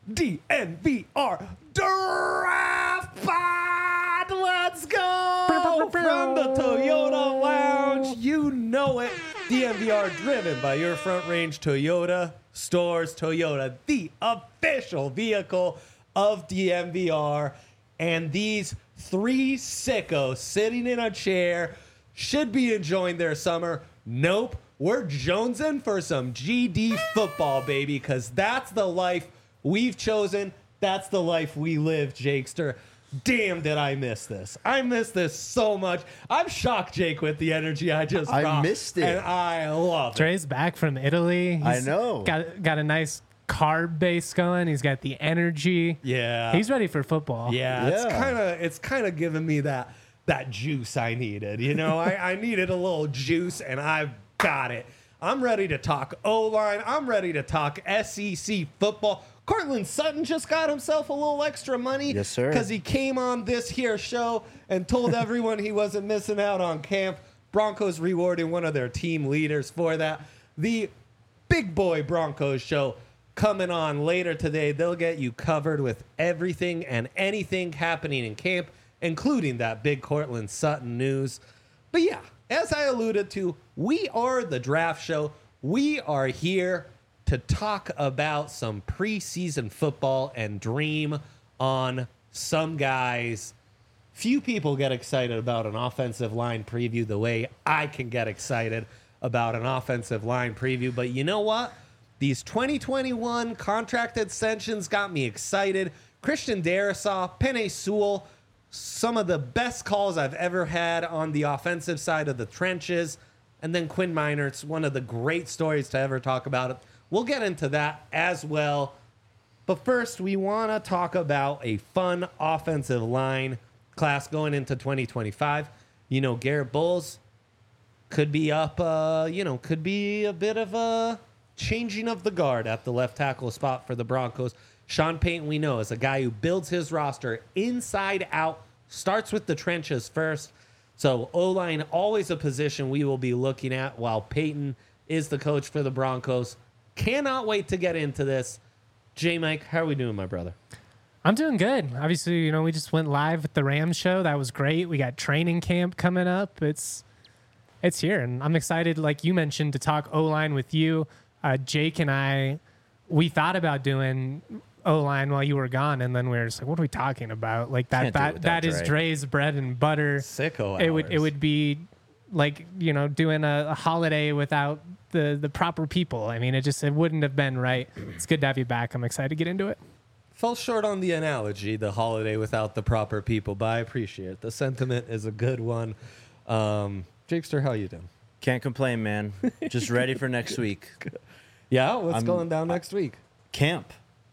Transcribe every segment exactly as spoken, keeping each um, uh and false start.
D N V R Draft Pod. Let's go from the Toyota Lounge. You know it. D N V R driven by your Front Range Toyota stores. Toyota, the official vehicle of D N V R. And these three sickos sitting in a chair should be enjoying their summer. Nope. We're jonesing for some G D football, baby, because that's the life we've chosen. That's the life we live, Jakester. Damn, did I miss this. I miss this so much. I'm shocked, Jake, with the energy I just I brought. missed it. And I love it. Dre's back from Italy. I He's know. Got, got a nice carb base going. He's got the energy. Yeah. He's ready for football. Yeah, it's Yeah. kind of it's kind of giving me that that juice I needed. You know, I, I needed a little juice, and I've got it. I'm ready to talk O-line. I'm ready to talk S E C football. Cortland Sutton just got himself a little extra money. Yes, sir. Because he came on this here show and told everyone he wasn't missing out on camp. Broncos rewarding one of their team leaders for that. The Big Boy Broncos show coming on later today. They'll get you covered with everything and anything happening in camp, including that big Cortland Sutton news. But yeah, as I alluded to, we are the draft show. We are here to talk about some preseason football and dream on some guys. Few people get excited about an offensive line preview the way I can get excited about an offensive line preview. But you know what? These twenty twenty-one contract extensions got me excited. Christian Darrisaw, Penei Sewell, some of the best calls I've ever had on the offensive side of the trenches. And then Quinn Meinerz, one of the great stories to ever talk about it. We'll get into that as well. But first, we want to talk about a fun offensive line class going into twenty twenty-five. You know, Garrett Bowles could be up, uh, you know, could be a bit of a changing of the guard at the left tackle spot for the Broncos. Sean Payton, we know, is a guy who builds his roster inside out, starts with the trenches first. So O-line, always a position we will be looking at while Payton is the coach for the Broncos. Cannot wait to get into this. J. Mike, how are we doing, my brother? I'm doing good. Obviously, you know, we just went live with the Rams show. That was great. We got training camp coming up. It's it's here, and I'm excited, like you mentioned, to talk O-line with you. Uh, Jake and I, we thought about doing O-line while you were gone, and then we were just like, what are we talking about? Like that Can't do it that, without that is Dre. Dre's bread and butter. Sicko It would it hours. would be like, you know, doing a, a holiday without the the proper people. I mean, it just it wouldn't have been right. It's good to have you back. I'm excited to get into it. Fell short on the analogy, the holiday without the proper people, but I appreciate it. The sentiment is a good one. Um, Jakester, how you doing? Can't complain, man. Just ready for next week. Yeah, what's I'm- going down next week? Camp.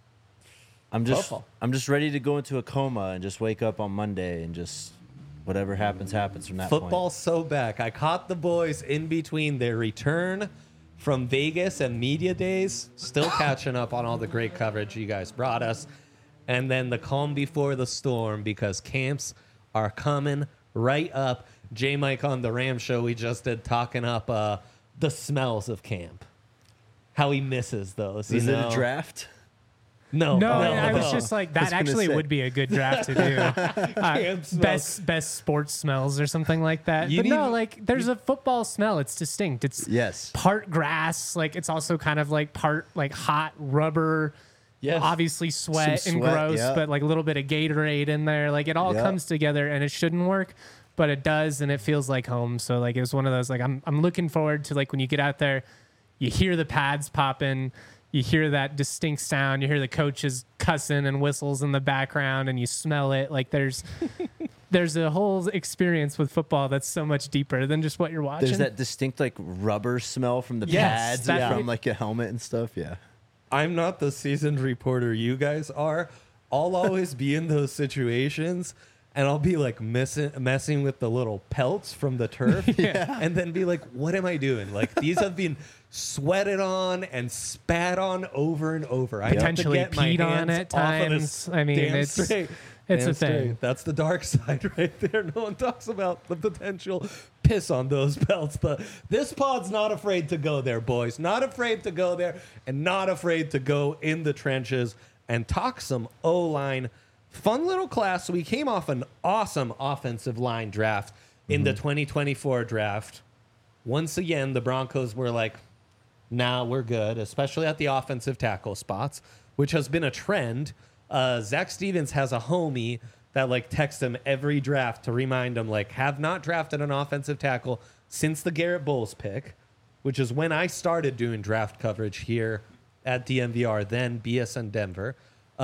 I'm just Football. I'm just ready to go into a coma and just wake up on Monday and just whatever happens happens from that Football's so back. I caught the boys in between their return from Vegas and media days, still catching up on all the great coverage you guys brought us, and then the calm before the storm because camps are coming right up. J. Mike on the Ram show we just did talking up uh, the smells of camp. How he misses those. point. Is you it know? a draft? No, No, no, I was no. just like I that. was gonna Actually, say. would be a good draft to do. Uh, Camp smells. best best sports smells or something like that. You but no, need- like there's a football smell. It's distinct. It's Yes. part grass. Like it's also kind of like part like hot rubber. Yes. Obviously sweat Some and sweat, gross, yeah. but like a little bit of Gatorade in there. Like it all Yeah. comes together, and it shouldn't work, but it does, and it feels like home. So like it was one of those like I'm I'm looking forward to like when you get out there, you hear the pads popping. You hear that distinct sound. You hear the coaches cussing and whistles in the background, and you smell it. Like there's, there's a whole experience with football that's so much deeper than just what you're watching. There's that distinct like rubber smell from the Yes, pads that- and from like a helmet and stuff. Yeah. I'm not the seasoned reporter you guys are. I'll always be in those situations and I'll be like messing messing with the little pelts from the turf and then be like, what am I doing? Like these have been sweated on and spat on over and over. I have to Potentially get my peed on hands at off of times. this I mean, damn it's- straight. it's Damn a thing. straight. That's the dark side right there. No one talks about the potential piss on those pelts. But this pod's not afraid to go there, boys. Not afraid to go there and not afraid to go in the trenches and talk some O-line. Fun little class. We came off an awesome offensive line draft in mm-hmm. the twenty twenty-four draft. Once again, the Broncos were like, nah, we're good, especially at the offensive tackle spots, which has been a trend. Uh, Zach Stevens has a homie that like texts him every draft to remind him, like, have not drafted an offensive tackle since the Garrett Bowles pick, which is when I started doing draft coverage here at D M V R, then B S N Denver,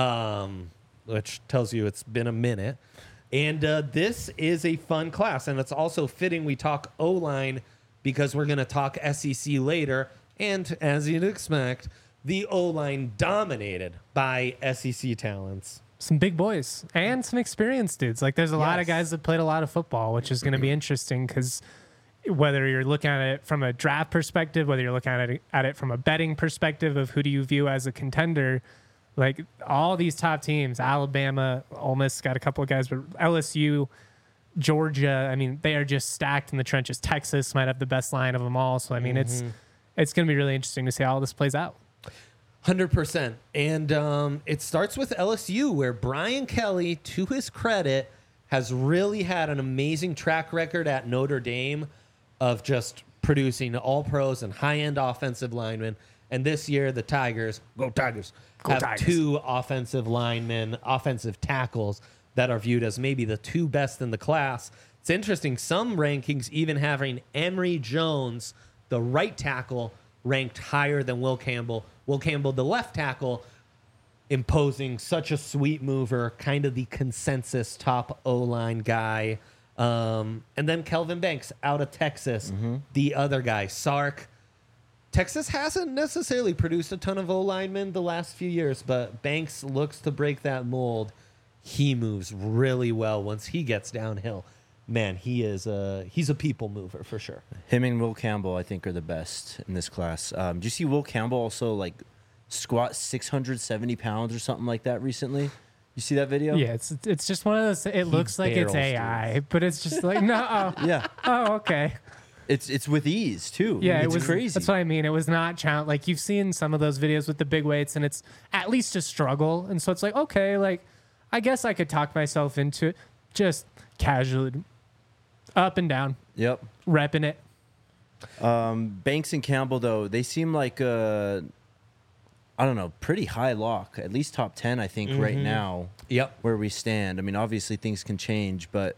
um, which tells you it's been a minute. And uh, this is a fun class, and it's also fitting we talk O-line because we're going to talk S E C later. And as you'd expect, the O-line dominated by S E C talents. Some big boys and some experienced dudes. Like there's a yes. lot of guys that played a lot of football, which is going to be interesting because whether you're looking at it from a draft perspective, whether you're looking at it, at it from a betting perspective of who do you view as a contender, like all these top teams, Alabama, Ole Miss got a couple of guys, but L S U, Georgia, I mean, they are just stacked in the trenches. Texas might have the best line of them all. So, I mean, mm-hmm. it's it's going to be really interesting to see how all this plays out. one hundred percent. And um, it starts with L S U, where Brian Kelly, to his credit, has really had an amazing track record at Notre Dame of just producing all-pros and high-end offensive linemen. And this year, the Tigers, go Tigers, go have Tigers. two offensive linemen, offensive tackles that are viewed as maybe the two best in the class. It's interesting. Some rankings even having Emory Jones, the right tackle, ranked higher than Will Campbell. Will Campbell, the left tackle, imposing such a sweet mover, kind of the consensus top O-line guy. Um, and then Kelvin Banks out of Texas, mm-hmm. the other guy, Sark. Texas hasn't necessarily produced a ton of O-linemen the last few years, but Banks looks to break that mold. He moves really well once he gets downhill. Man, he is a, he's a people mover for sure. Him and Will Campbell, I think, are the best in this class. Um, do you see Will Campbell also like squat six hundred seventy pounds or something like that recently? You see that video? Yeah, it's it's just one of those. It he looks like it's A I, dudes. But it's just like no. Oh, yeah. Oh, okay. It's it's with ease too. Yeah, it's it was crazy. That's what I mean. It was not challenge. Like you've seen some of those videos with the big weights, and it's at least a struggle. And so it's like okay, like I guess I could talk myself into it, just casually, up and down. Yep. Repping it. Um, Banks and Campbell though, they seem like uh, I don't know, pretty high lock, at least top ten, I think, mm-hmm. right now. Yep. Where we stand. I mean, obviously things can change, but.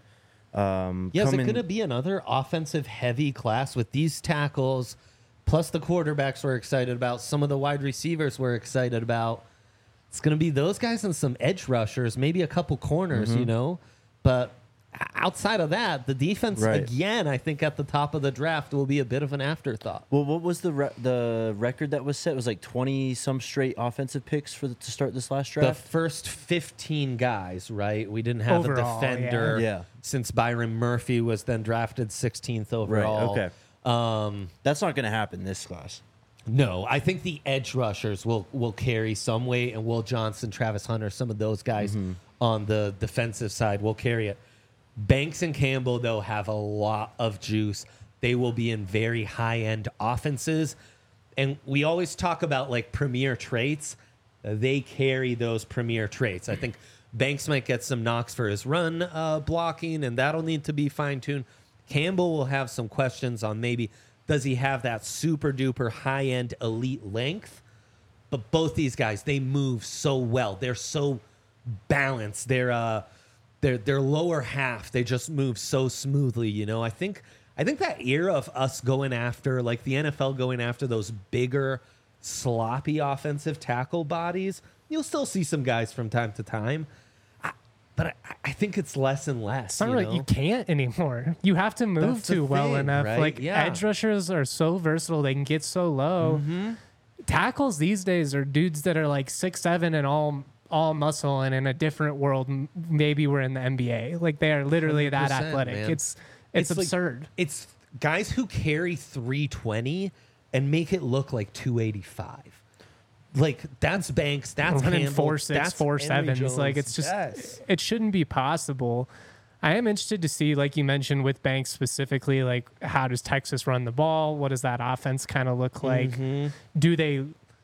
Um, yeah, is it going to be another offensive heavy class with these tackles, plus the quarterbacks we're excited about, some of the wide receivers we're excited about? It's going to be those guys and some edge rushers, maybe a couple corners, mm-hmm. you know? But outside of that, the defense, right. again, I think at the top of the draft will be a bit of an afterthought. Well, what was the re- the record that was set? It was like twenty-some straight offensive picks for the, to start this last draft? The first fifteen guys, right? We didn't have overall, a defender yeah. Yeah. since Byron Murphy was then drafted sixteenth overall. Right, okay. Um, That's not going to happen this class. No, I think the edge rushers will, will carry some weight, and Will Johnson, Travis Hunter, some of those guys mm-hmm. on the defensive side will carry it. Banks and Campbell, though, have a lot of juice. They will be in very high-end offenses. And we always talk about, like, premier traits. They carry those premier traits. I think Banks might get some knocks for his run uh, blocking, and that'll need to be fine-tuned. Campbell will have some questions on maybe, does he have that super-duper high-end elite length? But both these guys, they move so well. They're so balanced. They're... Uh, Their their lower half, they just move so smoothly, you know. I think I think that era of us going after, like the N F L going after those bigger, sloppy offensive tackle bodies, you'll still see some guys from time to time. I, but I, I think it's less and less. It's not you like know? You can't anymore. You have to move That's too well thing, enough. right? Like yeah. edge rushers are so versatile; they can get so low. Mm-hmm. Tackles these days are dudes that are like six seven and all. all muscle, and in a different world, maybe we're in the N B A. Like they are literally that athletic. Man. It's it's, it's absurd. Like, it's guys who carry three twenty and make it look like two eighty-five. Like that's Banks. That's running Campbell, four six, that's four Emory sevens. Jones. Like it's just yes. it shouldn't be possible. I am interested to see, like you mentioned with Banks specifically, like how does Texas run the ball? What does that offense kind of look like? Mm-hmm. Do they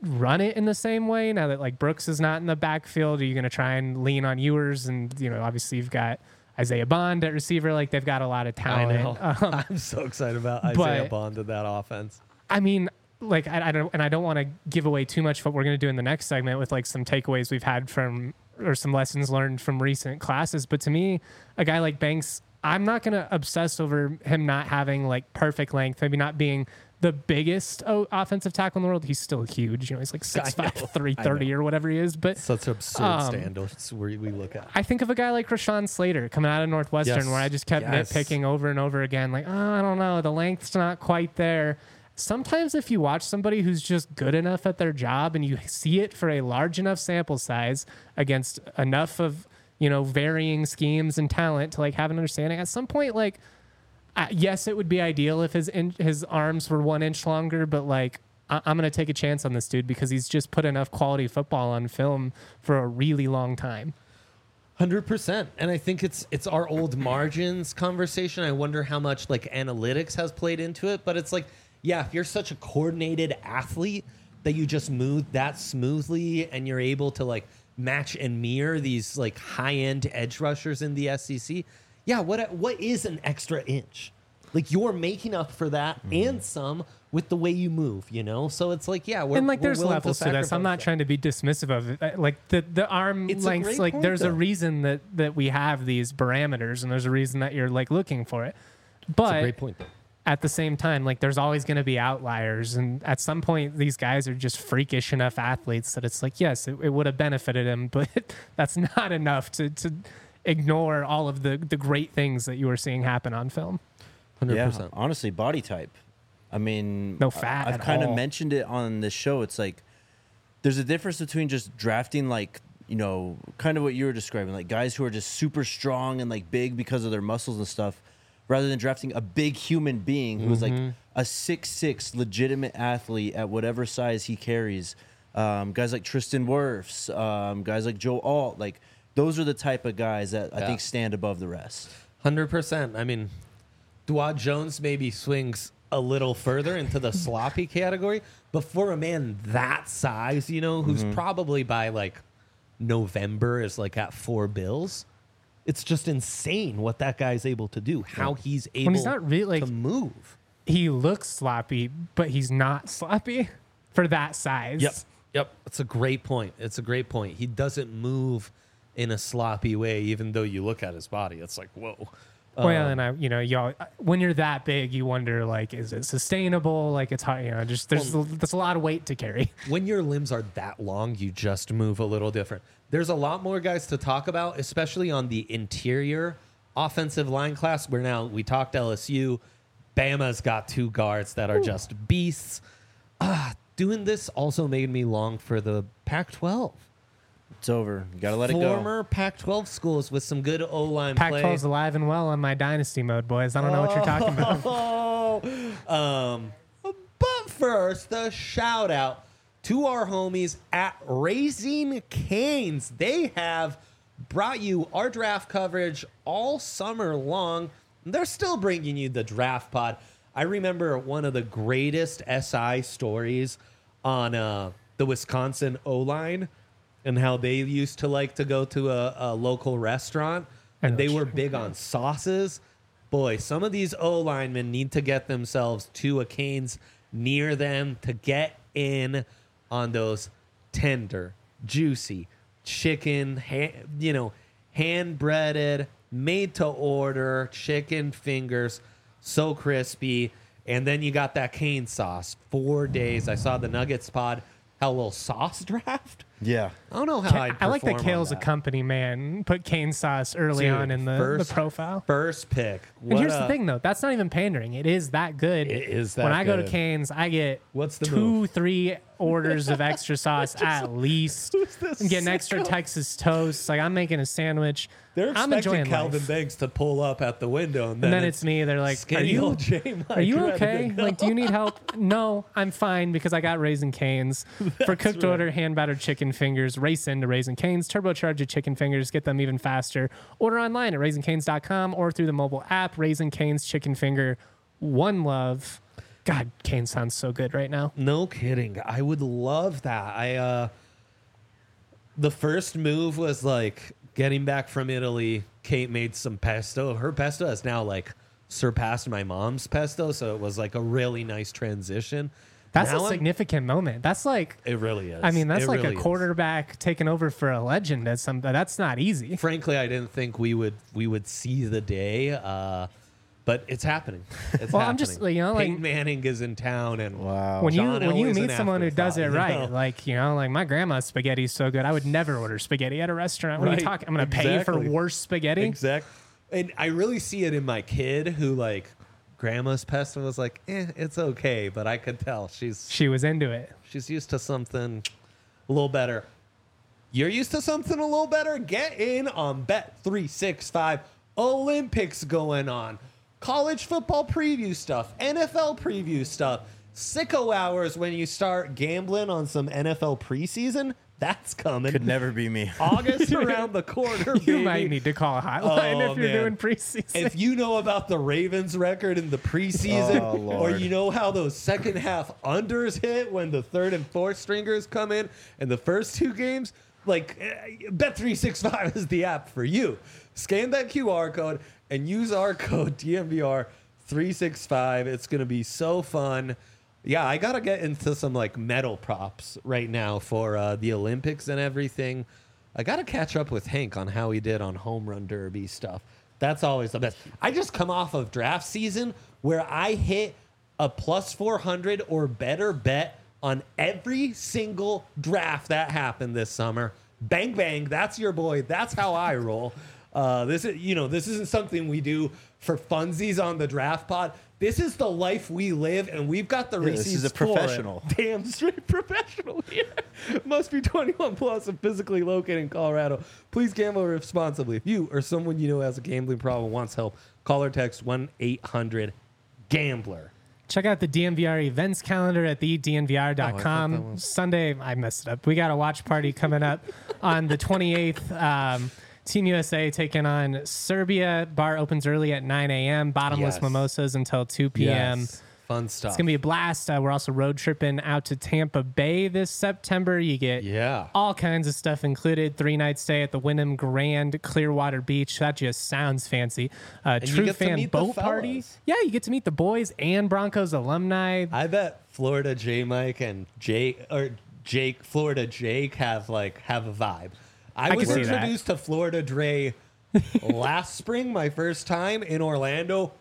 run it in the same way now that like Brooks is not in the backfield? Are you going to try and lean on Ewers? And, you know, obviously you've got Isaiah Bond at receiver. Like they've got a lot of talent. Um, I'm so excited about Isaiah Bond in that offense. I mean, like I, I don't, and I don't want to give away too much of what we're going to do in the next segment with like some takeaways we've had from, or some lessons learned from recent classes. But to me, a guy like Banks, I'm not going to obsess over him not having like perfect length, maybe not being the biggest oh, offensive tackle in the world. He's still huge. You know, he's like six five, three thirty or whatever he is. But such absurd um, standards where we look at. I think of a guy like Rashawn Slater coming out of Northwestern, yes. where I just kept yes. nitpicking over and over again. Like, oh, I don't know, the length's not quite there. Sometimes if you watch somebody who's just good enough at their job and you see it for a large enough sample size against enough of, you know, varying schemes and talent to like have an understanding, at some point, like, Uh, yes, it would be ideal if his in, his arms were one inch longer, but like I, I'm going to take a chance on this dude because he's just put enough quality football on film for a really long time. one hundred percent. And I think it's it's our old margins conversation. I wonder how much like analytics has played into it, but it's like, yeah, if you're such a coordinated athlete that you just move that smoothly and you're able to like match and mirror these like high-end edge rushers in the S E C, yeah, what what is an extra inch? Like you're making up for that mm. and some with the way you move, you know? So it's like, yeah, we're and like we're there's levels to, to this. I'm not that. trying to be dismissive of it. Like the the arm it's lengths, like point, there's though. a reason that that we have these parameters, and there's a reason that you're like looking for it. But That's a great point, though. At the same time, like there's always going to be outliers, and at some point these guys are just freakish enough athletes that it's like, yes, it, it would have benefited him, but that's not enough to to ignore all of the the great things that you were seeing happen on film. one hundred percent. Yeah, honestly, body type. I mean, no fat. I've kind of mentioned it on this show. It's like there's a difference between just drafting, like, you know, kind of what you were describing, like guys who are just super strong and like big because of their muscles and stuff, rather than drafting a big human being who's mm-hmm. like a six six legitimate athlete at whatever size he carries. Um, guys like Tristan Wirfs, um, guys like Joe Alt, like. Those are the type of guys that I yeah. think stand above the rest. one hundred percent. I mean, Dawand Jones maybe swings a little further into the sloppy category, but for a man that size, you know, who's mm-hmm. probably by like November is like at four bills, it's just insane what that guy's able to do, how he's able when he's not really, like, to move. He looks sloppy, but he's not sloppy for that size. Yep. Yep. It's a great point. It's a great point. He doesn't move in a sloppy way, even though you look at his body, it's like, whoa. Well, um, and I, you know, y'all, when you're that big, you wonder, like, is it sustainable? Like, it's hard, you know, just there's well, there's a lot of weight to carry. When your limbs are that long, you just move a little different. There's a lot more guys to talk about, especially on the interior offensive line class. Where now we talked L S U, Bama's got two guards that are Ooh. just beasts. Ah, doing this also made me long for the Pac twelve. It's over. You gotta let it go. go. Former Pac twelve schools with some good O-line play. Pac twelve's alive and well on my dynasty mode, boys. I don't know what you're talking about. um, but first, a shout out to our homies at Raising Cane's. They have brought you our draft coverage all summer long. They're still bringing you the draft pod. I remember one of the greatest S I stories on uh, the Wisconsin O-line, and how they used to like to go to a, a local restaurant, and they were big on sauces. Boy, some of these O-linemen need to get themselves to a Cane's near them to get in on those tender, juicy chicken, ha- you know, hand-breaded, made-to-order chicken fingers, so crispy. And then you got that Cane sauce. Four days. I saw the Nuggets pod. How a little sauce draft? Yeah. I don't know how I'd I like that perform Kale's on a that. company man. Put cane sauce early Dude, on in the, first, the profile. First pick. And What here's a- the thing, though. That's not even pandering. It is that good. It is that When I go to good. Cane's, I get What's the two, move? three orders of extra sauce at least. this I'm getting extra sicko? Texas toast. Like, I'm making a sandwich. They're I'm expecting enjoying Calvin life. Banks to pull up at the window, and then, And then it's me. They're like, "Are skinny you old J. Mike are you ready to okay? go." Like, do you need help?" No, I'm fine because I got Raising Cane's. For cooked right. order, hand battered chicken fingers, race into Raising Cane's, turbocharge your chicken fingers, get them even faster. Order online at raising canes dot com or through the mobile app. Raising Cane's chicken finger, one love. God, Kane sounds so good right now. No kidding. I would love that. I uh the first move was like getting back from Italy. Kate made some pesto. Her pesto has now like surpassed my mom's pesto, so it was like a really nice transition. That's Now a I'm- significant moment. That's like, It really is. I mean, that's It like really a is. quarterback taking over for a legend. At some, that's not easy. Frankly, I didn't think we would we would see the day, uh, but it's happening. It's Well, happening. I'm just, you know, like- Peyton Manning is in town, and Wow. When you John when you Elway's meet an someone who does it afterthought, you right, know? like you know, like my grandma's spaghetti's so good, I would never order spaghetti at a restaurant. What are you Right. talking? I'm gonna pay Exactly. for worse spaghetti. Exact. And I really see it in my kid who like grandma's pesto was like, eh, it's okay, but I could tell she's She was into it. she's used to something a little better. You're used to something a little better? Get in on Bet three sixty-five. Olympics going on. College football preview stuff, N F L preview stuff. Sicko hours when you start gambling on some N F L preseason. That's coming. Could never be me. August around the corner, You baby. might need to call a hotline Oh, if you're man. doing preseason. If you know about the Ravens record in the preseason, Oh, or Lord. you know how those second half unders hit when the third and fourth stringers come in in the first two games, like eh, Bet three sixty-five is the app for you. Scan that Q R code and use our code D M V R three sixty-five. It's going to be so fun. Yeah, I got to get into some like medal props right now for uh, the Olympics and everything. I got to catch up with Hank on how he did on home run derby stuff. That's always the best. I just come off of draft season where I hit a plus four hundred or better bet on every single draft that happened this summer. Bang, bang. That's your boy. That's how I roll. Uh, this is, you know, this isn't something we do for funsies on the draft pod. This is the life we live, and we've got the Yeah, receipts this is a for it. professional. Damn straight professional here. Must be twenty-one plus and physically located in Colorado. Please gamble responsibly. If you or someone you know has a gambling problem and wants help, call or text one eight hundred gambler. Check out the D M V R events calendar at the D N V R dot Oh, I com. thought that was- Sunday, I messed it up. We got a watch party coming up on the twenty-eighth. Um, Team U S A taking on Serbia. Bar opens early at nine a.m. Bottomless Yes. mimosas until two p.m. Yes. Fun stuff. It's going to be a blast. Uh, we're also road tripping out to Tampa Bay this September. You get Yeah. all kinds of stuff included. Three night stay at the Wyndham Grand Clearwater Beach. That just sounds fancy. Uh, you true get to fan meet the boat party. fellas. Yeah, you get to meet the boys and Broncos alumni. I bet Florida J Mike and Jake or Jake Florida Jake have like have a vibe. I, I was can see that. introduced to Florida Dre last spring, my first time in Orlando.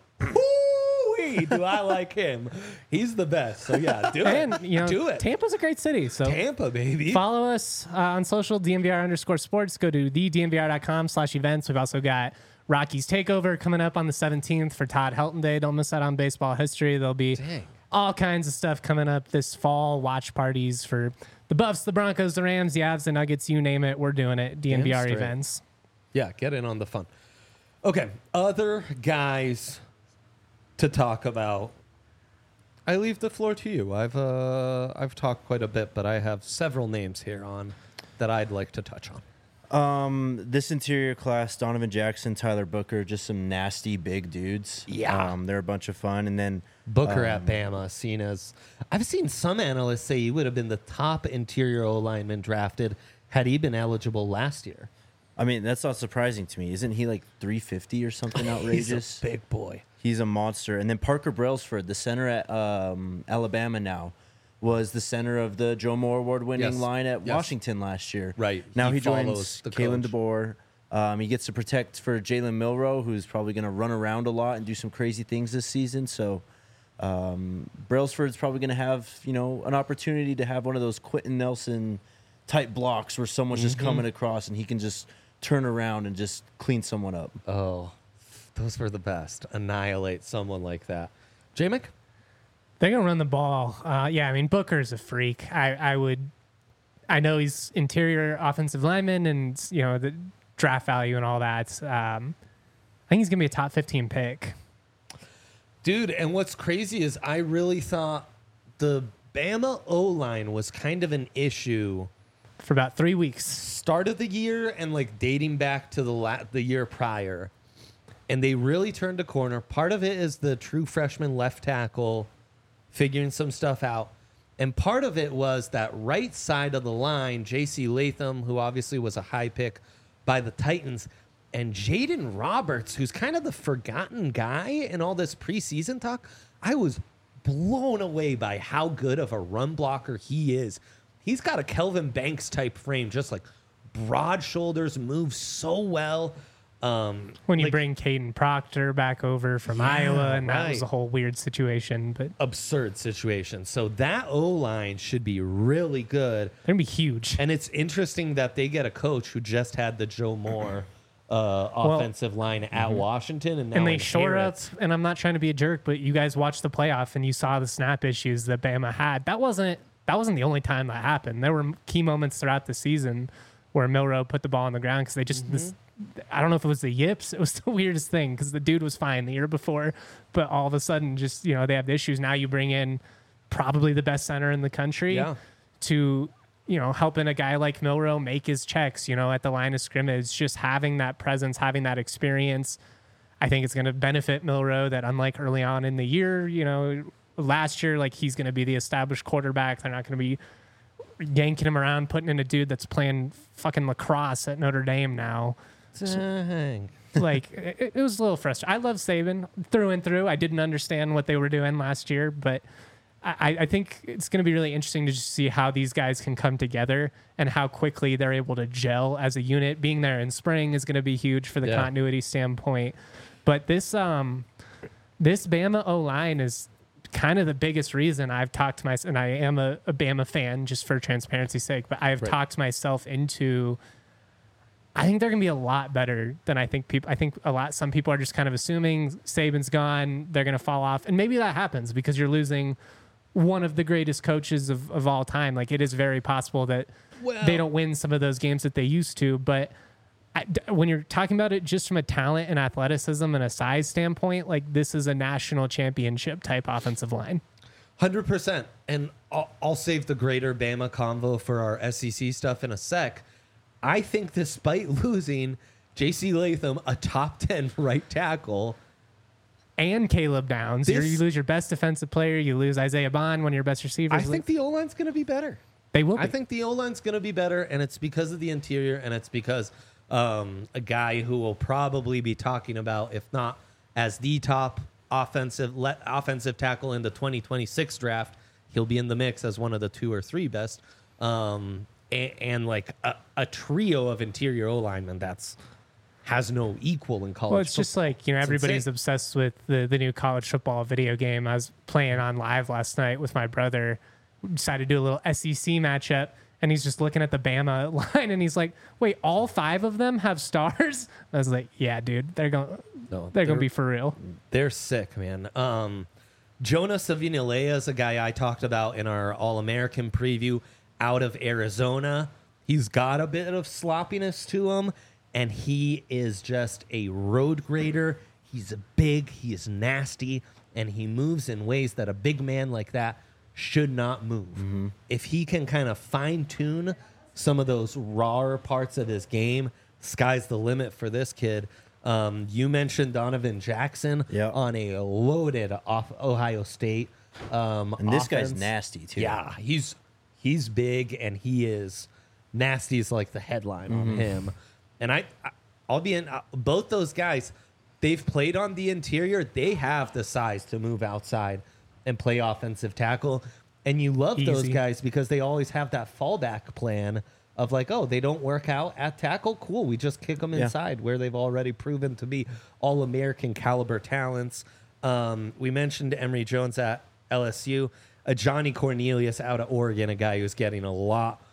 Woo-wee, do I like him? He's the best. So yeah, do And it. you know, do it. Tampa's a great city. So Tampa, baby. follow us uh, on social, D M V R underscore sports. Go to the D N V R dot com slash events. We've also got Rockies Takeover coming up on the seventeenth for Todd Helton Day. Don't miss out on baseball history. There'll be Dang. all kinds of stuff coming up this fall. Watch parties for the Buffs, the Broncos, the Rams, the Avs, the Nuggets, you name it. We're doing it. D N V R Damn straight. events. Yeah, get in on the fun. Okay, other guys to talk about. I leave the floor to you. I've uh, I've talked quite a bit, but I have several names here on that I'd like to touch on. Um, this interior class, Donovan Jackson, Tyler Booker, just some nasty big dudes. Yeah. Um, they're a bunch of fun. And then Booker um, at Bama, seen as I've seen some analysts say he would have been the top interior O lineman drafted had he been eligible last year. I mean, that's not surprising to me. Isn't he like three fifty or something outrageous? He's a big boy. He's a monster. And then Parker Brailsford, the center at um, Alabama now, was the center of the Joe Moore Award-winning Yes. line at Yes. Washington last year. Right. Now He he, follows joins the Kalen coach. DeBoer. Um, he gets to protect for Jalen Milrow, who's probably going to run around a lot and do some crazy things this season. So um, Brailsford's probably going to have, you know, an opportunity to have one of those Quentin Nelson type blocks where someone's just coming across and he can just turn around and just clean someone up. Oh, those were the best. Annihilate someone like that. J-Mick? They're gonna run the ball. Uh, yeah, I mean Booker's a freak. I, I would, I know he's interior offensive lineman and you know the draft value and all that. Um, I think he's gonna be a top fifteen pick. Dude, and what's crazy is I really thought the Bama O-line was kind of an issue For about three weeks. start of the year and like dating back to the la- the year prior. And they really turned a corner. Part of it is the true freshman left tackle figuring some stuff out. And part of it was that right side of the line, J C Latham, who obviously was a high pick by the Titans, and Jaden Roberts, who's kind of the forgotten guy in all this preseason talk. I was blown away by how good of a run blocker he is. He's got a Kelvin Banks type frame, just like broad shoulders, moves so well. Um, when you like, bring Caden Proctor back over from Yeah, Iowa, and that right. was a whole weird situation, but absurd situation. So that O-line should be really good. they're going to be huge. And it's interesting that they get a coach who just had the Joe Moore uh, offensive line at Washington, and now And they shore up, inherits- and I'm not trying to be a jerk, but you guys watched the playoff and you saw the snap issues that Bama had. That wasn't that wasn't the only time that happened. There were key moments throughout the season where Milroe put the ball on the ground because they just this. I don't know if it was the yips. It was the weirdest thing because the dude was fine the year before, but all of a sudden, just you know, they have the issues. Now you bring in probably the best center in the country Yeah. to, you know, helping a guy like Milroe make his checks, you know, at the line of scrimmage. Just having that presence, having that experience, I think it's going to benefit Milroe. That unlike early on in the year, you know, last year, like he's going to be the established quarterback. They're not going to be yanking him around, putting in a dude that's playing fucking lacrosse at Notre Dame now. Dang. Like it, it was a little frustrating. I love Saban through and through. I didn't understand what they were doing last year, but I, I think it's going to be really interesting to just see how these guys can come together and how quickly they're able to gel as a unit. Being there in spring is going to be huge for the Yeah. continuity standpoint. But this um this Bama O line is kind of the biggest reason I've talked myself, and I am a, a Bama fan just for transparency's sake, but I have Right. talked myself into. I think they're going to be a lot better than I think people. I think a lot. Some people are just kind of assuming Saban's gone, they're going to fall off, and maybe that happens because you're losing one of the greatest coaches of, of all time. Like it is very possible that Well- they don't win some of those games that they used to. But I, d- when you're talking about it just from a talent and athleticism and a size standpoint, like this is a national championship type offensive line. one hundred percent. And I'll, I'll save the greater Bama convo for our S E C stuff in a sec. I think despite losing J C Latham, a top ten right tackle, And Caleb Downs, You're- This- you lose your best defensive player, you lose Isaiah Bond, one of your best receivers. I think the O-line's going to be better. they will. Be. I think the O-line's going to be better, and it's because of the interior, and it's because um, a guy who will probably be talking about, if not as the top offensive le- offensive tackle in the twenty twenty-six draft, he'll be in the mix as one of the two or three best. Um, and, and like a, a trio of interior O-linemen that's has no equal in college. Well, it's just football. like, you know, It's everybody's insane. obsessed with the, the new college football video game. I was playing on live last night with my brother. We decided to do a little S E C matchup, and he's just looking at the Bama line, and he's like, wait, all five of them have stars? I was like, yeah, dude, they're going No, they're going they're- to be for real. They're sick, man. Um, Jonah Savinalea is a guy I talked about in our All-American preview out of Arizona. He's got a bit of sloppiness to him, and he is just a road grader. He's big, he is nasty, and he moves in ways that a big man like that should not move. If he can kind of fine-tune some of those rawer parts of his game, sky's the limit for this kid. Um, you mentioned Donovan Jackson Yep. on a loaded off Ohio State. Um, And this guy's offense. nasty too. Yeah, he's he's big and he is nasty is like the headline on him. And I, I I'll be in uh, both those guys. They've played on the interior. They have the size to move outside and play offensive tackle. And you love those Easy. guys because they always have that fallback plan of like, oh, they don't work out at tackle. Cool, we just kick them Yeah. inside where they've already proven to be all American caliber talents. Um, we mentioned Emory Jones at L S U, a Johnny Cornelius out of Oregon, a guy who's getting a lot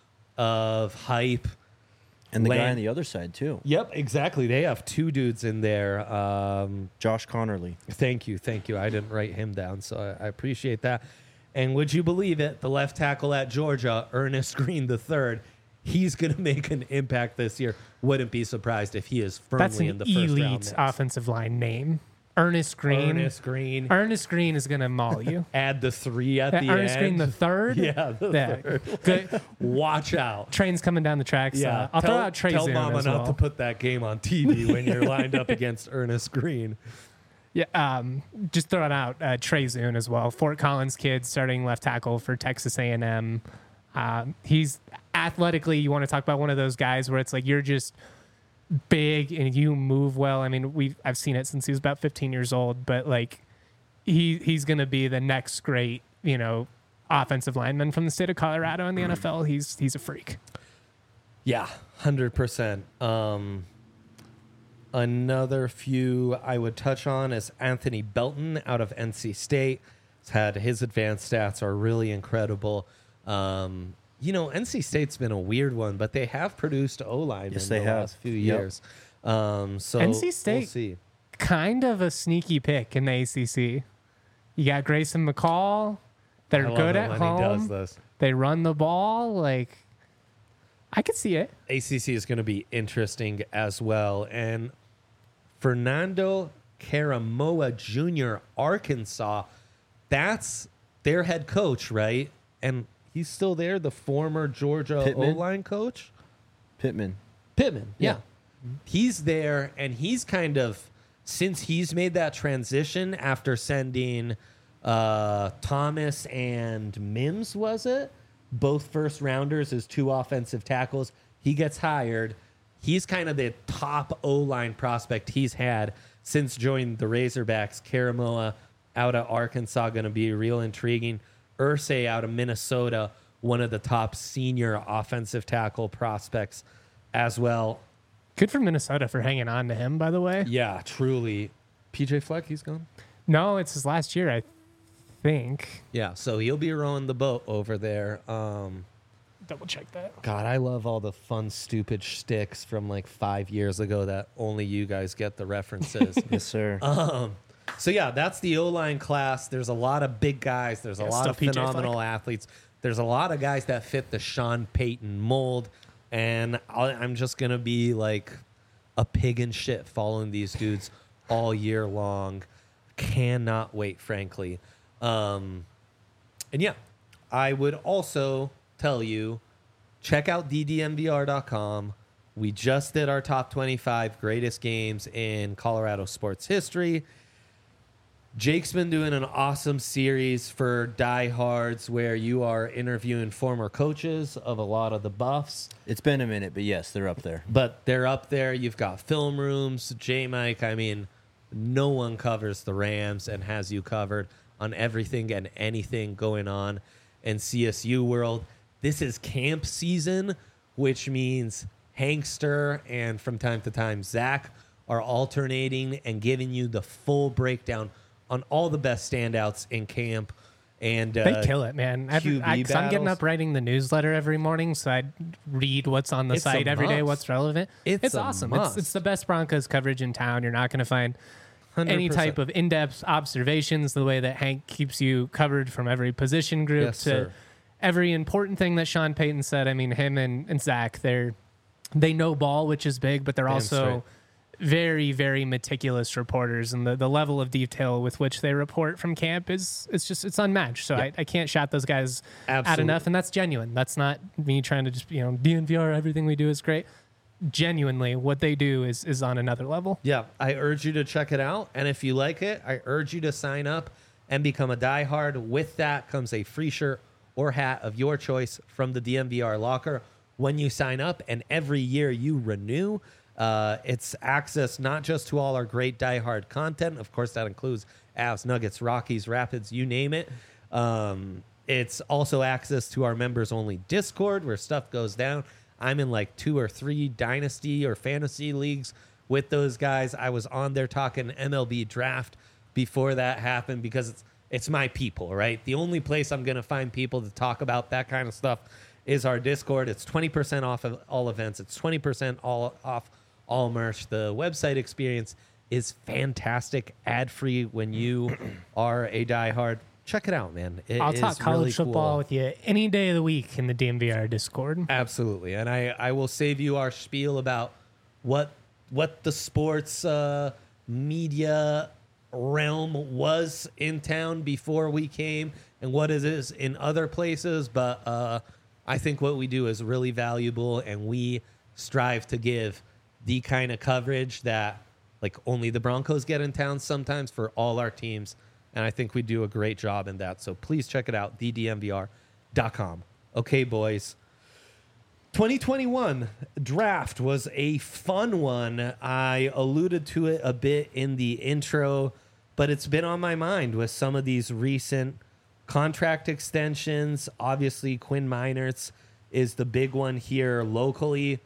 of hype. And the guy Land- on the other side too, Yep, exactly. They have two dudes in there. Um, Josh Connerly. Thank you, thank you. I didn't write him down, so I, I appreciate that. And would you believe it? The left tackle at Georgia, Ernest Green the third, he's going to make an impact this year. Wouldn't be surprised if he is firmly That's an in the first round. elite mix. offensive line name. Ernest Green. Ernest Green. Ernest Green is going to maul you. Add the three at Uh, the Ernest end. Green the third? Yeah, the Yeah. third. Good. Watch out. Train's coming down the tracks. Yeah, Uh, I'll tell, throw out Trey tell Zoom Mama as not well. to put that game on T V when you're lined up against Ernest Green. Yeah, um, just throwing out uh, Trey Zune as well. Fort Collins kid, starting left tackle for Texas A and M. Um, he's athletically, you want to talk about one of those guys where it's like you're just big and you move well. I mean, we I've seen it since he was about fifteen years old, but like he he's gonna be the next great, you know, offensive lineman from the state of Colorado in the N F L. He's he's a freak. Yeah, one hundred percent. Um, another few I would touch on is Anthony Belton out of N C State. He's had his advanced stats are really incredible. Um, you know, N C State's been a weird one, but they have produced O-line Yes, in they the have. last few Yep. years. Um, so N C we'll State- see. Kind of a sneaky pick in the A C C. You got Grayson McCall. They're I love good it at when home. he does this. They run the ball. Like, I could see it. A C C is going to be interesting as well. And Fernando Caramoa Junior, Arkansas, that's their head coach, right? And he's still there, the former Georgia Pittman? O-line coach? Pittman. Pittman, yeah. Yeah. He's there, and he's kind of, since he's made that transition after sending uh, Thomas and Mims, was it? Both first rounders as two offensive tackles. He gets hired. He's kind of the top O-line prospect he's had since joining the Razorbacks. Caramoa out of Arkansas, going to be real intriguing. Irsay out of Minnesota, one of the top senior offensive tackle prospects as well. Good for Minnesota for hanging on to him, by the way. Yeah, truly. P J Fleck, he's gone? No, it's his last year, I think. Yeah, so he'll be rowing the boat over there. Um, Double check that. God, I love all the fun, stupid shticks from like five years ago that only you guys get the references. Yes, sir. um, so, yeah, that's the O-line class. There's a lot of big guys. There's a Yeah, lot still of P J phenomenal Fleck. athletes. There's a lot of guys that fit the Sean Payton mold. And I'll, I'm just going to be like a pig in shit following these dudes all year long. Cannot wait, frankly. Um, and yeah, I would also tell you, check out D D M V R dot com. We just did our top twenty-five greatest games in Colorado sports history. Jake's been doing an awesome series for diehards where you are interviewing former coaches of a lot of the Buffs, It's been a minute, but yes, they're up there. but they're up there. You've got film rooms, J-Mike. I mean, no one covers the Rams and has you covered on everything and anything going on in C S U world. This is camp season, which means Hankster and from time to time Zach are alternating and giving you the full breakdown on all the best standouts in camp. And uh, They kill it, man. Every, Q B I, 'cause I'm getting battles. up writing the newsletter every morning, so I read what's on the It's a site every day, must. what's relevant. It's a awesome. must. It's, it's the best Broncos coverage in town. You're not going to find one hundred any percent. type of in-depth observations, the way that Hank keeps you covered from every position group Yes, to sir. every important thing that Sean Payton said. I mean, him and, and Zach, they're they know ball, which is big, but they're Damn also straight. very, very meticulous reporters, and the, the level of detail with which they report from camp is it's just it's unmatched. So I, I can't shout those guys out Absolutely. enough, and that's genuine. That's not me trying to just you know D N V R everything we do is great. Genuinely, what they do is is on another level. Yeah, I urge you to check it out. And if you like it, I urge you to sign up and become a diehard. With that comes a free shirt or hat of your choice from the D M V R locker when you sign up. And every year you renew. Uh, it's access not just to all our great diehard content. Of course, that includes Avs, Nuggets, Rockies, Rapids, you name it. Um, it's also access to our members-only Discord where stuff goes down. I'm in like two or three dynasty or fantasy leagues with those guys. I was on there talking M L B draft before that happened because it's it's my people, right? The only place I'm going to find people to talk about that kind of stuff is our Discord. It's twenty percent off of all events. It's twenty percent all off all merch. The website experience is fantastic, ad-free when you are a diehard. Check it out, man. It I'll is talk college really football cool. with you any day of the week in the D M V R Discord. Absolutely, and I, I will save you our spiel about what what the sports uh, media realm was in town before we came and what it is in other places. But uh, I think what we do is really valuable, and we strive to give the kind of coverage that like only the Broncos get in town sometimes for all our teams. And I think we do a great job in that. So please check it out, the d m v r dot com. Okay, boys. twenty twenty-one draft was a fun one. I alluded to it a bit in the intro, but it's been on my mind with some of these recent contract extensions. Obviously, Quinn Meinerz is the big one here locally.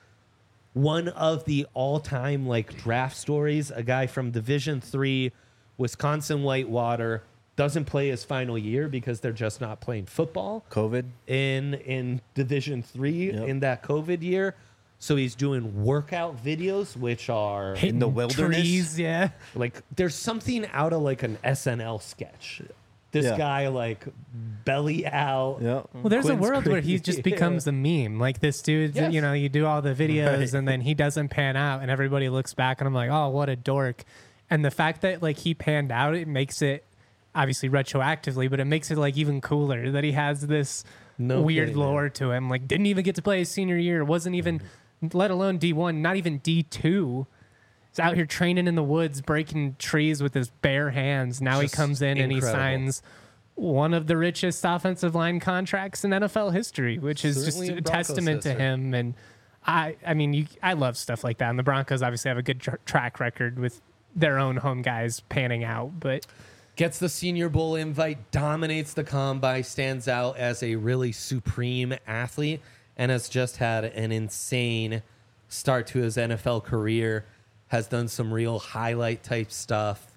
One of the all-time like draft stories, a guy from Division three, Wisconsin Whitewater, doesn't play his final year because they're just not playing football. COVID in in Division three Yep. in that COVID year. So he's doing workout videos, which are Hitting the wilderness? trees, yeah. like there's something out of like an S N L sketch. This Yeah. guy like belly out. yeah Well, there's Quinn's a world where he crazy. just becomes a meme. Like this dude, Yes. you know, you do all the videos Right. and then he doesn't pan out and everybody looks back and I'm like, oh, what a dork. And the fact that like he panned out, it makes it obviously retroactively, but it makes it like even cooler that he has this No weird kidding, lore to him. Like didn't even get to play his senior year. Wasn't even, let alone D one, not even D two. He's out here training in the woods, breaking trees with his bare hands. Now Just he comes in and he incredible. signs one of the richest offensive line contracts in N F L history, which is Certainly just in a Broncos testament to history. him. And I, I mean, you, I love stuff like that. And the Broncos obviously have a good tr- track record with their own home guys panning out. But Gets the Senior Bowl invite, dominates the combine, stands out as a really supreme athlete, and has just had an insane start to his N F L career. Has done some real highlight type stuff.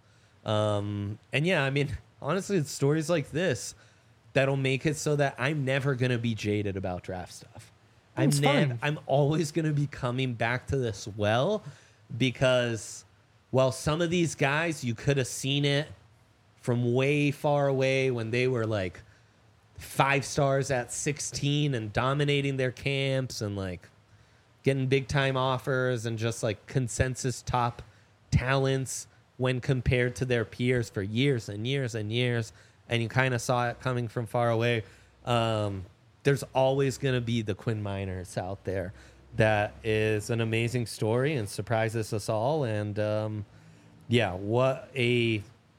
Um, and yeah, I mean, honestly, it's stories like this that'll make it so that I'm never going to be jaded about draft stuff. I'm, It's nev- fun. I'm always going to be coming back to this well because, well, some of these guys, you could have seen it from way far away when they were like five stars at sixteen and dominating their camps and like getting big time offers and just like consensus top talents when compared to their peers for years and years and years. And you kind of saw it coming from far away. Um, there's always going to be the Quinn Meinerz out there. That is an amazing story and surprises us all. And um, yeah, what a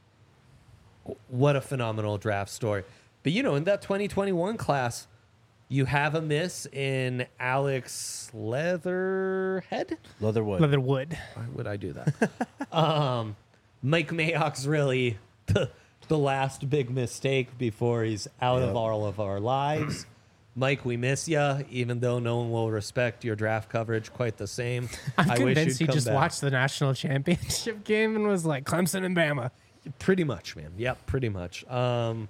what a phenomenal draft story. But you know, in that twenty twenty-one class, you have a miss in Alex Leatherhead. Leatherwood. Leatherwood. Why would I do that? um, Mike Mayock's really the, the last big mistake before he's out of Yep. all of our lives. Mike, we miss you, even though no one will respect your draft coverage quite the same. I'm I wish convinced you'd he come just back. watched the national championship game and was like Clemson and Bama. Pretty much, man. Yep, pretty much. Um,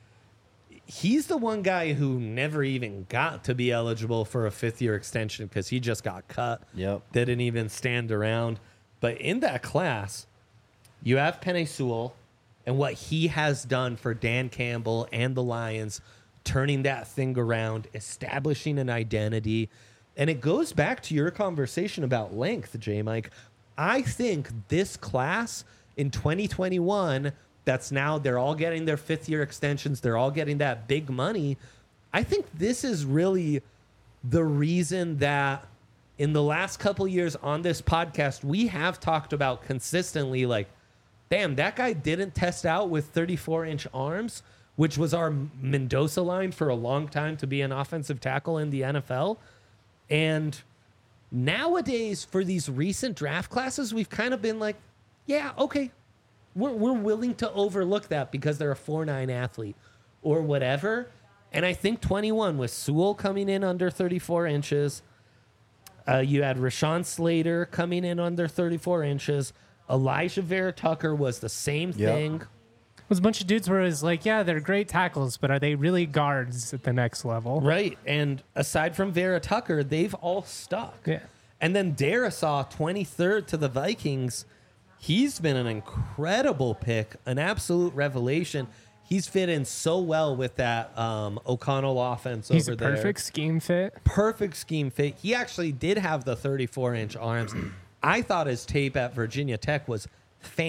he's the one guy who never even got to be eligible for a fifth year extension because he just got cut. Yep. Didn't even stand around. But in that class, you have Penei Sewell and what he has done for Dan Campbell and the Lions, turning that thing around, establishing an identity. And it goes back to your conversation about length, J. Mike. I think this class in twenty twenty-one, that's now they're all getting their fifth year extensions, they're all getting that big money. I think this is really the reason that in the last couple years on this podcast, we have talked about consistently like, damn, that guy didn't test out with thirty-four inch arms, which was our Mendoza line for a long time to be an offensive tackle in the N F L. And nowadays, for these recent draft classes, we've kind of been like, yeah, okay, we're, we're willing to overlook that because they're a four nine athlete or whatever. And I think twenty-one with Sewell coming in under thirty-four inches. Uh, you had Rashawn Slater coming in under thirty-four inches. Elijah Vera Tucker was the same Yep. thing. It was a bunch of dudes where it was like, yeah, they're great tackles, but are they really guards at the next level? Right. And aside from Vera Tucker, they've all stuck. Yeah. And then Darisaw, twenty-third to the Vikings. He's been an incredible pick, an absolute revelation. He's fit in so well with that um, O'Connell offense He's over a there. perfect scheme fit. Perfect scheme fit. He actually did have the thirty-four inch arms. I thought his tape at Virginia Tech was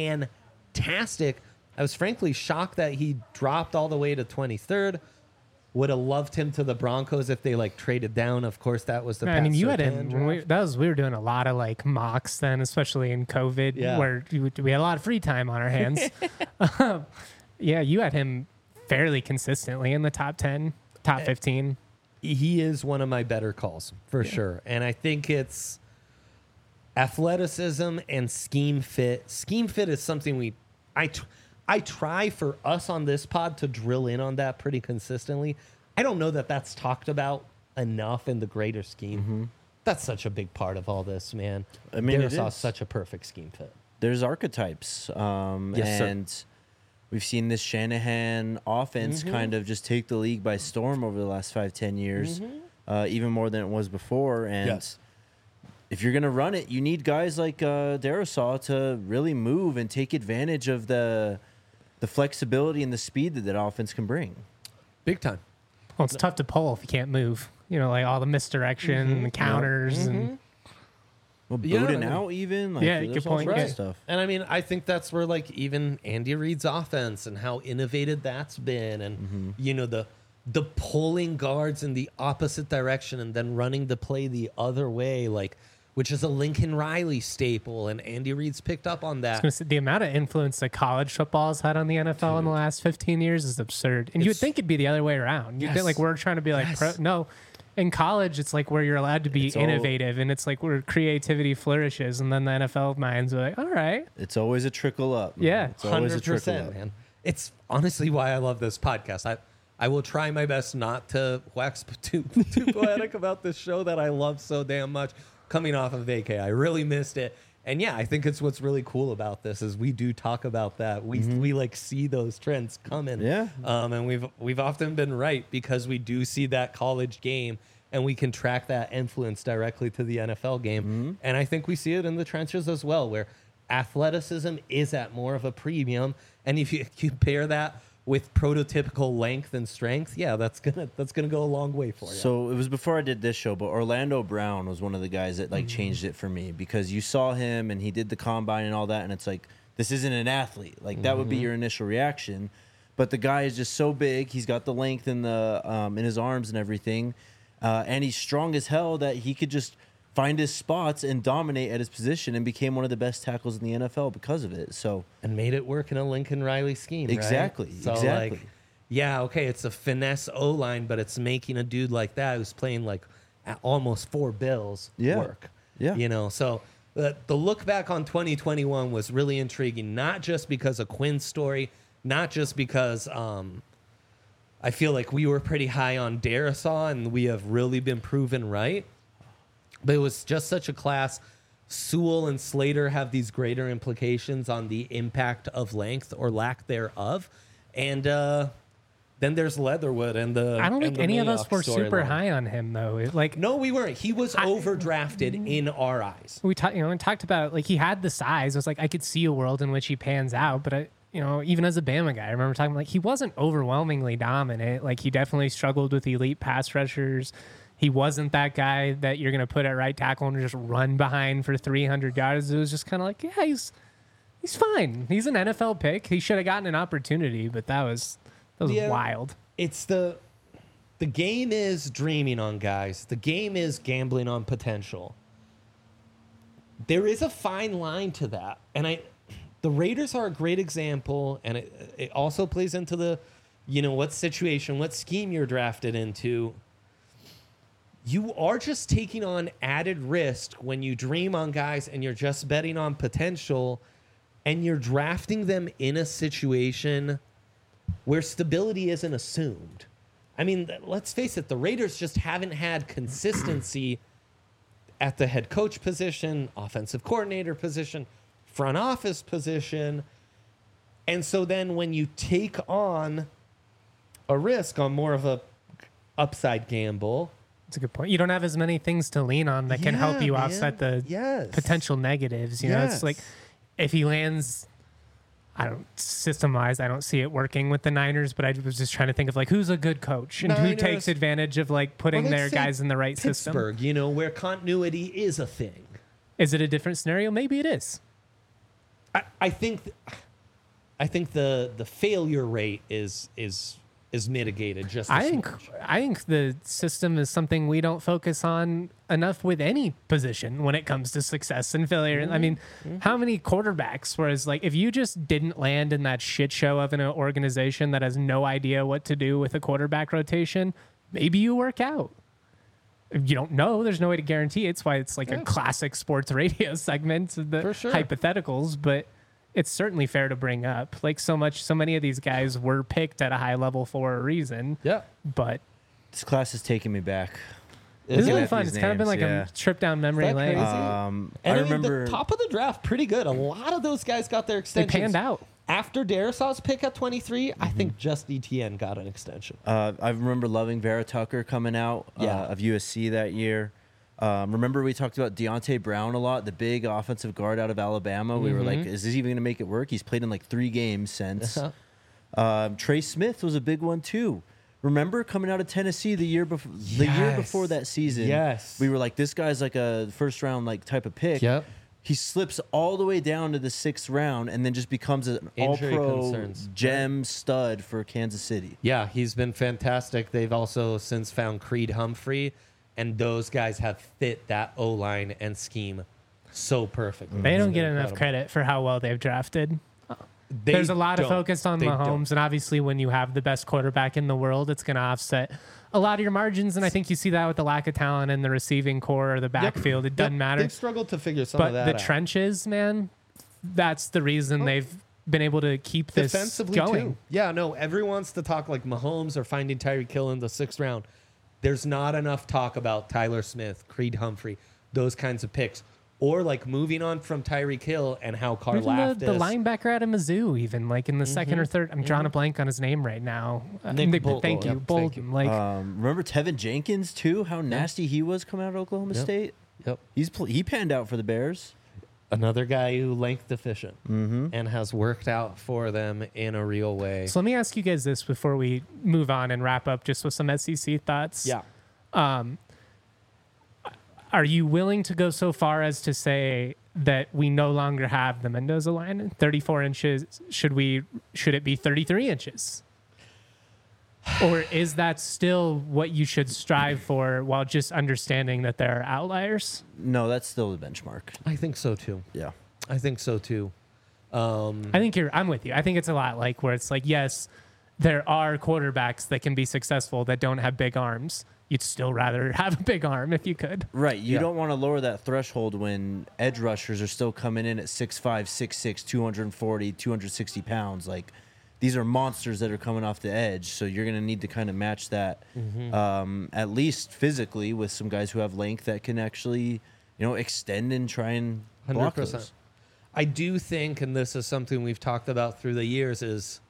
fantastic. I was frankly shocked that he dropped all the way to twenty-third. Would have loved him to the Broncos if they like traded down. Of course, that was the. I mean, Pat you had Surtain him. draft. We, that was we were doing a lot of like mocks then, especially in COVID, Yeah. where you, we had a lot of free time on our hands. um, yeah, you had him fairly consistently in the top ten, top fifteen. He is one of my better calls for sure, and I think it's athleticism and scheme fit. Scheme fit is something we, I, tr- I try for us on this pod to drill in on that pretty consistently. I don't know that that's talked about enough in the greater scheme. Mm-hmm. That's such a big part of all this, man. I mean, it Darrisaw is. such a perfect scheme fit. There's archetypes, um, Yes, sir. and we've seen this Shanahan offense Mm-hmm. kind of just take the league by storm over the last five, ten years, uh, even more than it was before. And Mm-hmm. Yes. if you're gonna run it, you need guys like uh, Darrisaw to really move and take advantage of the the flexibility and the speed that that offense can bring. Big time. Well, it's tough to pull if you can't move. You know, like all the misdirection and the counters and Well, Yeah, Bowden I mean- out even. Like, Yeah, there's good all point, sorts of yeah. stuff. And I mean, I think that's where like even Andy Reid's offense and how innovative that's been, and Mm-hmm. you know the the pulling guards in the opposite direction and then running the play the other way, like which is a Lincoln Riley staple, and Andy Reid's picked up on that. gonna say, the amount of influence that college football has had on the N F L in the last fifteen years is absurd. And you would It's- think it'd be the other way around. You'd Yes. think like we're trying to be like, Yes. pro, no. In college, it's like where you're allowed to be It's all- innovative, and it's like where creativity flourishes. And then the N F L minds are like, all right, It's always a trickle up. man. Yeah. it's always a trickle percent, up. man. It's honestly why I love this podcast. I I will try my best not to wax too too poetic about this show that I love so damn much. Coming off of vacay, I really missed it. And yeah, I think it's what's really cool about this is we do talk about that. We we like see those trends coming. Yeah. Um, and we've we've often been right because we do see that college game and we can track that influence directly to the N F L game. And I think we see it in the trenches as well, where athleticism is at more of a premium. And if you compare that with prototypical length and strength, yeah, that's gonna that's gonna go a long way for you. So it was before I did this show, but Orlando Brown was one of the guys that like changed it for me because you saw him and he did the combine and all that, and it's like this isn't an athlete. Like that would be your initial reaction, but the guy is just so big. He's got the length in the um, in his arms and everything, uh, and he's strong as hell that he could just find his spots and dominate at his position and became one of the best tackles in the N F L because of it. So and made it work in a Lincoln Riley scheme. right? Exactly, So exactly. like, yeah, okay, it's a finesse O line, but it's making a dude like that who's playing like at almost four bills Yeah. work. Yeah. You know, so the, the look back on twenty twenty-one was really intriguing, not just because of Quinn's story, not just because um, I feel like we were pretty high on Darrisaw and we have really been proven right. But it was just such a class. Sewell and Slater have these greater implications on the impact of length or lack thereof. And uh, then there's Leatherwood and the. I don't and think the any of us Mayock were super storyline. high on him though. It, like No, we weren't. He was overdrafted in our eyes. we talked, you know, and talked about like he had the size. It was like I could see a world in which he pans out, but I, you know, even as a Bama guy, I remember talking like he wasn't overwhelmingly dominant. Like he definitely struggled with elite pass rushers. He wasn't that guy that you're going to put at right tackle and just run behind for three hundred yards. It was just kind of like, yeah, he's he's fine. He's an N F L pick. He should have gotten an opportunity, but that was that was Yeah. wild. It's the the game is dreaming on guys. The game is gambling on potential. There is a fine line to that, and I, the Raiders are a great example, and it it also plays into the, you know, what situation, what scheme you're drafted into. You are just taking on added risk when you dream on guys and you're just betting on potential, and you're drafting them in a situation where stability isn't assumed. I mean, th- let's face it, the Raiders just haven't had consistency at the head coach position, offensive coordinator position, front office position. And so then when you take on a risk on more of a upside gamble, That's a good point. You don't have as many things to lean on that can help Yeah, you man. offset the Yes. potential negatives. You know, Yes. it's like if he lands, I don't system wise, I don't see it working with the Niners, but I was just trying to think of like who's a good coach and who Niners. takes advantage of like putting Or let's their say guys in the right system. Pittsburgh, you know, where continuity is a thing. Is it a different scenario? Maybe it is. I, I think th- I think the the failure rate is is is mitigated just. I a think smidge. I think the system is something we don't focus on enough with any position when it comes to success and failure. I mean, how many quarterbacks? Whereas, like, if you just didn't land in that shit show of an organization that has no idea what to do with a quarterback rotation, maybe you work out. You don't know. There's no way to guarantee it. It's why it's like Yeah. a classic sports radio segment, the For sure. hypotheticals, but it's certainly fair to bring up. Like so much, so many of these guys were picked at a high level for a reason. Yeah. But This class is taking me back. this is Isn't really it? fun. These It's kind of been names, like yeah. a trip down memory Is that lane. crazy? Um, And I I, mean, remember. the top of the draft, pretty good. A lot of those guys got their They extensions. panned out. After Darisaw's pick at twenty-three, I think just E T N got an extension. Uh, I remember loving Vera Tucker coming out uh, Yeah. of U S C that year. Um, remember we talked about Deontay Brown a lot, the big offensive guard out of Alabama. We were like, is this even going to make it work? He's played in like three games since. Uh-huh. Um, Trey Smith was a big one too. Remember coming out of Tennessee the year before the year Yes. before that season? Yes. we were like, this guy's like a first round like type of pick. Yep. He slips all the way down to the sixth round and then just becomes an Injury all-pro concerns. gem stud for Kansas City. Yeah, he's been fantastic. They've also since found Creed Humphrey, and those guys have fit that O line and scheme so perfectly. They It's don't been get enough incredible. credit for how well they've drafted. They There's a lot of don't. focus on They Mahomes, don't. and obviously, when you have the best quarterback in the world, it's going to offset a lot of your margins. And I think you see that with the lack of talent in the receiving core or the Yep. backfield. It Yep. doesn't matter. They've struggled to figure some of But that the out. trenches, man, that's the reason they've been able to keep this Defensively going. too. Yeah, no, everyone wants to talk like Mahomes or finding Tyreek Hill in the sixth round. There's not enough talk about Tyler Smith, Creed Humphrey, those kinds of picks. Or like moving on from Tyreek Hill and how Even Karlaftis. the, the linebacker out of Mizzou, even like in the second or third. I'm drawing a blank on his name right now. Uh, Nick Nick- Bolton. Thank you, Yep, Bolton. thank you. Like Um, remember Tevin Jenkins too? How nasty he was coming out of Oklahoma Yep. State. Yep. He's pl- he panned out for the Bears. Another guy who length deficient Mm-hmm. and has worked out for them in a real way. So let me ask you guys this before we move on and wrap up just with some S E C thoughts. Yeah. Are you willing to go so far as to say that we no longer have the Mendoza line? thirty-four inches. Should we should it be thirty-three inches? Or is that still what you should strive for while just understanding that there are outliers? No, that's still the benchmark. I think so too. Yeah. I think so too. Um, I think you're I'm with you. I think it's a lot like where it's like, yes, there are quarterbacks that can be successful that don't have big arms. You'd still rather have a big arm if you could. Right. You Yeah. don't want to lower that threshold when edge rushers are still coming in at six five, six six, two forty, two sixty pounds. Like, these are monsters that are coming off the edge. So you're going to need to kind of match that, um, at least physically, with some guys who have length that can actually, you know, extend and try and block one hundred percent. those. I do think, and this is something we've talked about through the years, is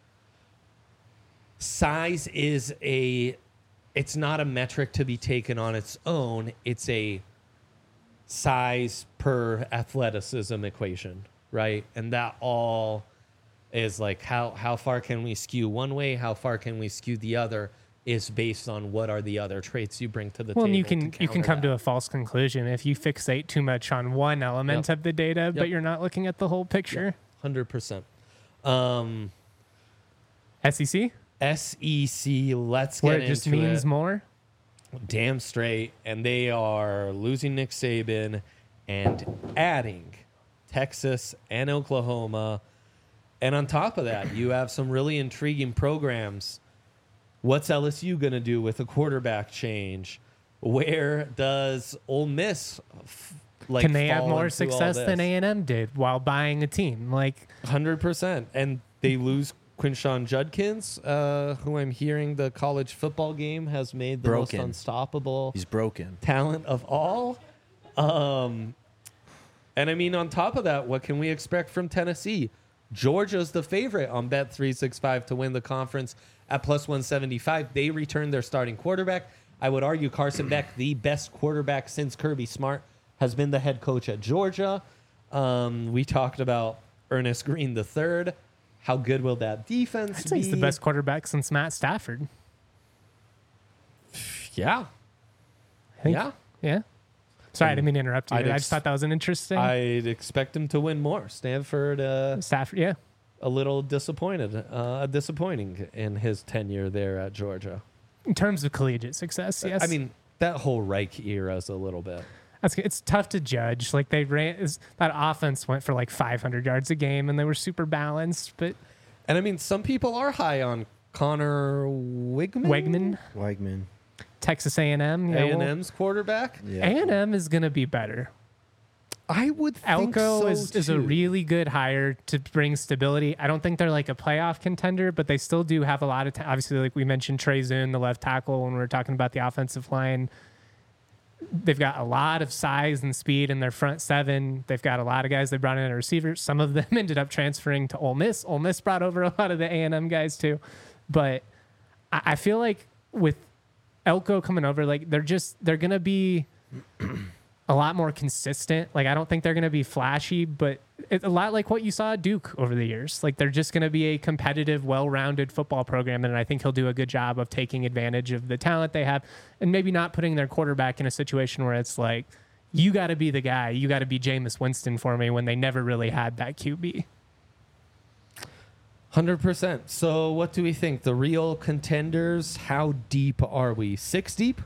size is a, it's not a metric to be taken on its own. It's a size per athleticism equation, right? And that all is like how how far can we skew one way, how far can we skew the other, is based on what are the other traits you bring to the Well, and table. you can to you can counter come that. to a false conclusion if you fixate too much on one element Yep. of the data, but Yep. you're not looking at the whole picture. one hundred percent. Um, S E C, S E C, let's get where it just into means it. more. Damn straight. And they are losing Nick Saban and adding Texas and Oklahoma. And on top of that, you have some really intriguing programs. What's L S U going to do with a quarterback change? Where does Ole Miss f- like Can they have fall more into all success than this? A and M did while buying a team? Like, one hundred percent. And they lose Quinshawn Judkins, uh, who I'm hearing the college football game has made the Broken. most unstoppable He's broken. talent of all. Um, and I mean, on top of that, what can we expect from Tennessee? Georgia's the favorite on Bet three sixty-five to win the conference at plus one seventy-five. They returned their starting quarterback. I would argue Carson Beck, the best quarterback since Kirby Smart, has been the head coach at Georgia. Um, we talked about Ernest Green the third. How good will that defense I'd say be? he's the best quarterback since Matt Stafford. Yeah. I think. Yeah. Yeah. Sorry, I didn't mean to interrupt you. I'd I ex- just thought that was an interesting. I'd expect him to win more. Stanford, uh, Stafford, yeah. a little disappointed, uh, disappointing in his tenure there at Georgia. In terms of collegiate success, yes. I mean, that whole Reich era is a little bit. That's, it's tough to judge. Like they ran, is, that offense went for like five hundred yards a game, and they were super balanced. But And I mean, some people are high on Connor Wigman, Wegman, Weigman. Texas A and M, A and M's quarterback. Yeah. A and M is going to be better. I would think Elko so is, is a too. really good hire to bring stability. I don't think they're like a playoff contender, but they still do have a lot of. T- obviously, like we mentioned, Trey Zune, the left tackle, when we were talking about the offensive line. They've got a lot of size and speed in their front seven. They've got a lot of guys they brought in as receivers. Some of them ended up transferring to Ole Miss. Ole Miss brought over a lot of the A and M guys too. But I, I feel like with Elko coming over, like they're just they're gonna be a lot more consistent. Like I don't think they're gonna be flashy, but it's a lot like what you saw at Duke over the years. Like they're just gonna be a competitive, well-rounded football program, and I think he'll do a good job of taking advantage of the talent they have, and maybe not putting their quarterback in a situation where it's like, you got to be the guy, you got to be Jameis Winston for me, when they never really had that Q B. one hundred percent. So what do we think? The real contenders, how deep are we? Six deep?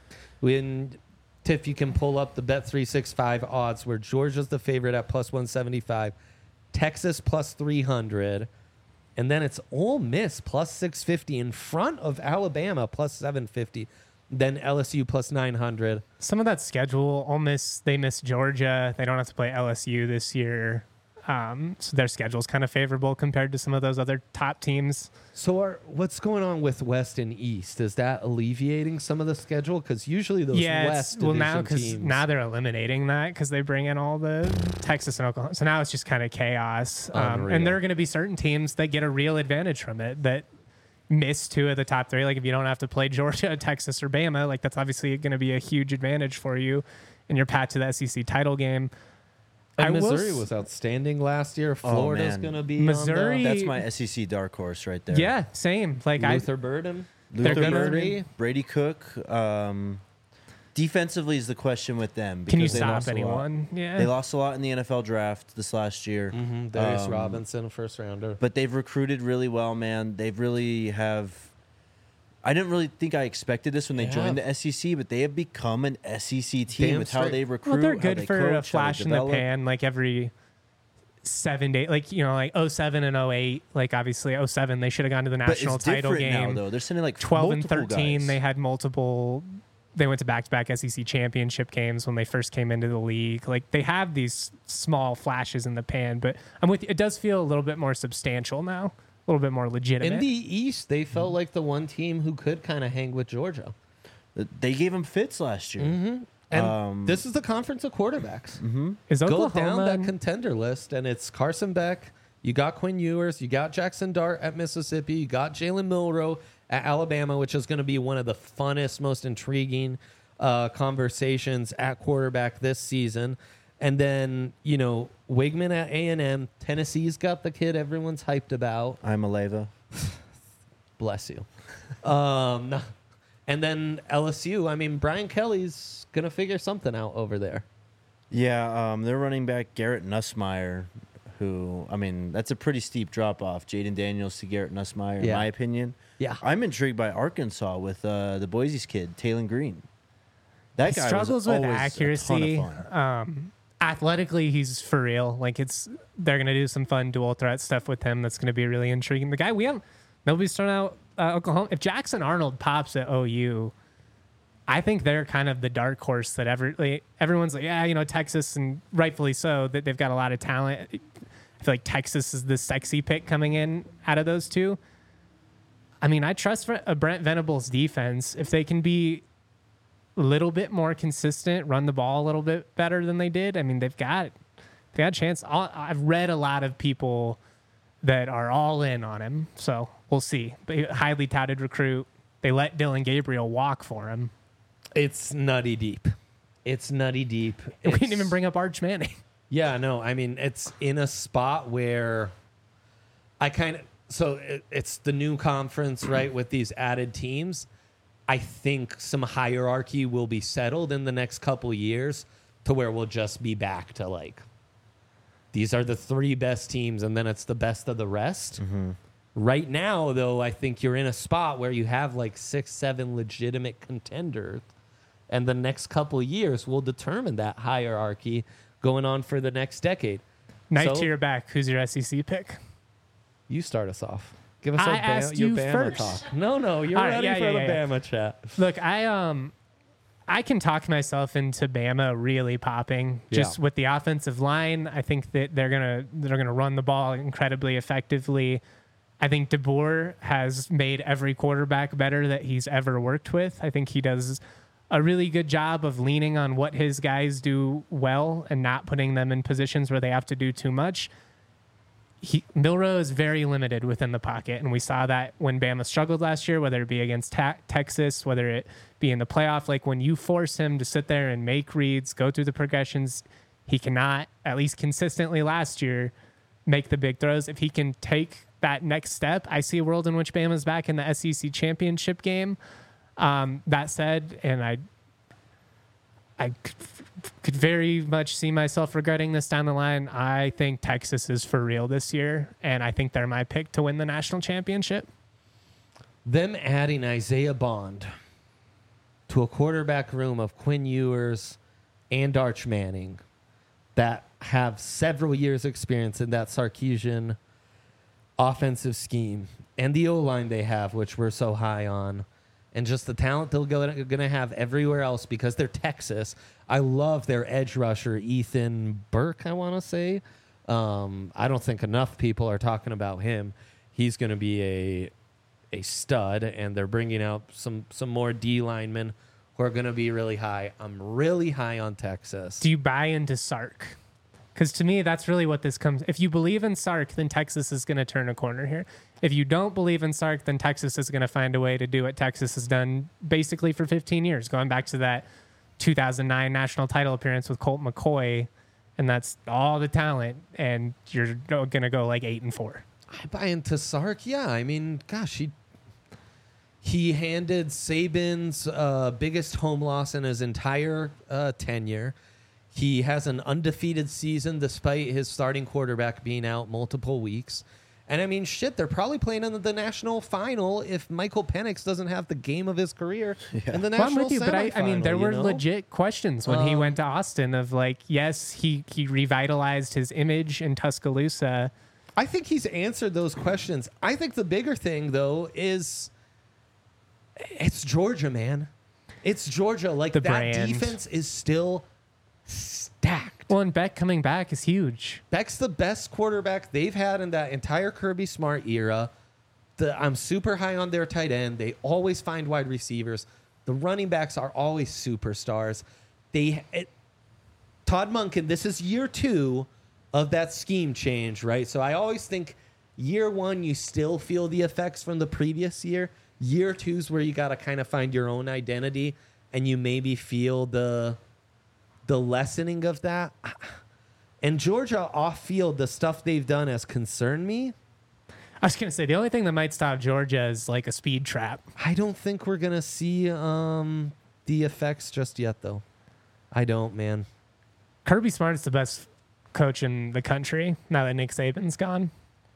When Tiff, you can pull up the Bet three sixty-five odds where Georgia's the favorite at plus one seventy-five, Texas plus three hundred, and then it's Ole Miss plus six fifty in front of Alabama plus seven fifty, then L S U plus nine hundred. Some of that schedule, Ole Miss, they miss Georgia. They don't have to play L S U this year. Um, so their schedule's kind of favorable compared to some of those other top teams. So are, what's going on with West and East? Is that alleviating some of the schedule? Because usually those yeah, West it's, well now division because teams... now they're eliminating that because they bring in all the Texas and Oklahoma. So now it's just kind of chaos. Um, Unreal. and there are going to be certain teams that get a real advantage from it that miss two of the top three. Like if you don't have to play Georgia, Texas, or Bama, like that's obviously going to be a huge advantage for you in your path to the S E C title game. And I will Missouri s- was outstanding last year. Florida's man. going to be Missouri- on the, That's my S E C dark horse right there. Yeah, same. Like I, Luther Burden. They're Luther gonna- Burden, Brady Cook. Um, defensively is the question with them. can you because they stop lost a lot. anyone? Yeah. They lost a lot in the N F L draft this last year. Mm-hmm. Darius Um, Robinson, first rounder. But they've recruited really well, man. They've really have. I didn't really think I expected this when they Yeah. joined the S E C, but they have become an S E C team Damn with how straight. they recruit. Well, they're how good they for coach, a how flash they in the develop. pan, like every seven days, like you know, like oh seven and oh eight. Like obviously oh seven, they should have gone to the But national it's title different game. now, though. They're sending like twelve and multiple thirteen, guys. they had multiple. They went to back-to-back S E C championship games when they first came into the league. Like they have these small flashes in the pan, but I'm with you. It does feel a little bit more substantial now, a little bit more legitimate. In the East, they felt like the one team who could kind of hang with Georgia. They gave him fits last year. Mm-hmm. And Um, this is the conference of quarterbacks. Mm-hmm. Is Go down Oklahoma? that contender list, and it's Carson Beck. You got Quinn Ewers. You got Jackson Dart at Mississippi. You got Jalen Milroe at Alabama, which is going to be one of the funnest, most intriguing uh, conversations at quarterback this season. And then, you know, Wigman at A and M. Tennessee's got the kid everyone's hyped about. I'm a Leva. Bless you. Um, and then L S U. I mean, Brian Kelly's going to figure something out over there. Yeah, um, they're running back Garrett Nussmeyer, who, I mean, that's a pretty steep drop off. Jaden Daniels to Garrett Nussmeyer, in Yeah. my opinion. Yeah. I'm intrigued by Arkansas with uh, the Boise's kid, Taylon Green. That He guy struggles was with always a ton of accuracy. fun. Um, athletically, he's for real. Like it's, they're gonna do some fun dual threat stuff with him. That's gonna be really intriguing. The guy we have, nobody's thrown out uh, Oklahoma. If Jackson Arnold pops at O U, I think they're kind of the dark horse that every like, everyone's like, yeah, you know, Texas, and rightfully so, that they've got a lot of talent. I feel like Texas is the sexy pick coming in out of those two. I mean, I trust a Brent Venables defense if they can be a little bit more consistent, run the ball a little bit better than they did. I mean, they've got they got a chance. I'll, I've read a lot of people that are all in on him, so we'll see. But highly touted recruit. They let Dylan Gabriel walk for him. It's nutty deep. It's nutty deep. We didn't It's- even bring up Arch Manning. Yeah, no, I mean, it's in a spot where I kind of, so it, it's the new conference, right, with these added teams. I think some hierarchy will be settled in the next couple years to where we'll just be back to like these are the three best teams, and then it's the best of the rest. Right now, though, I think you're in a spot where you have like six, seven legitimate contenders, and the next couple of years will determine that hierarchy going on for the next decade. Knife So- to your back. Who's your S E C pick? You start us off. Give us I a Bama, asked your you Bama first. talk. No, no, you're All right, ready yeah, for yeah, the yeah, yeah. Bama chat. Look, I um, I can talk myself into Bama really popping just Yeah. with the offensive line. I think that they're gonna they're gonna run the ball incredibly effectively. I think DeBoer has made every quarterback better that he's ever worked with. I think he does a really good job of leaning on what his guys do well and not putting them in positions where they have to do too much. He, Milrow is very limited within the pocket, and we saw that when Bama struggled last year, whether it be against ta- Texas, whether it be in the playoff. Like when you force him to sit there and make reads, go through the progressions, he cannot, at least consistently last year, make the big throws. If he can take that next step, I see a world in which Bama's back in the S E C championship game. Um, that said, and I, I could, could very much see myself regretting this down the line. I think Texas is for real this year, and I think they're my pick to win the national championship. Them adding Isaiah Bond to a quarterback room of Quinn Ewers and Arch Manning that have several years experience in that Sarkisian offensive scheme and the O-line they have, which we're so high on, and just the talent they're going to have everywhere else because they're Texas. I love their edge rusher, Ethan Burke, I want to say. Um, I don't think enough people are talking about him. He's going to be a a stud, and they're bringing out some, some more D linemen who are going to be really high. I'm really high on Texas. Do you buy into Sark? Because to me, that's really what this comes. If you believe in Sark, then Texas is going to turn a corner here. If you don't believe in Sark, then Texas is going to find a way to do what Texas has done basically for fifteen years, going back to that two thousand nine national title appearance with Colt McCoy, and that's all the talent, and you're going to go like eight and four. I buy into Sark. Yeah, I mean, gosh, he he handed Saban's uh, biggest home loss in his entire uh, tenure. He has an undefeated season despite his starting quarterback being out multiple weeks. And I mean, shit, they're probably playing in the national final if Michael Penix doesn't have the game of his career in the Well, I'm national with you, but I, I mean, semifinal, there you were know? legit questions when he Um, went to Austin of like, yes, he, he revitalized his image in Tuscaloosa. I think he's answered those questions. I think the bigger thing, though, is it's Georgia, man. It's Georgia. Like, The that brand. defense is still stacked. Well, and Beck coming back is huge. Beck's the best quarterback they've had in that entire Kirby Smart era. The, I'm super high on their tight end. They always find wide receivers. The running backs are always superstars. They it, Todd Monken, this is year two of that scheme change, right? So I always think year one, you still feel the effects from the previous year. Year two is where you got to kind of find your own identity, and you maybe feel the the lessening of that. And Georgia off field, the stuff they've done has concerned me. I was going to say, the only thing that might stop Georgia is like a speed trap. I don't think we're gonna see um, the effects just yet, though. I don't, man. Kirby Smart's the best coach in the country now that Nick Saban's gone.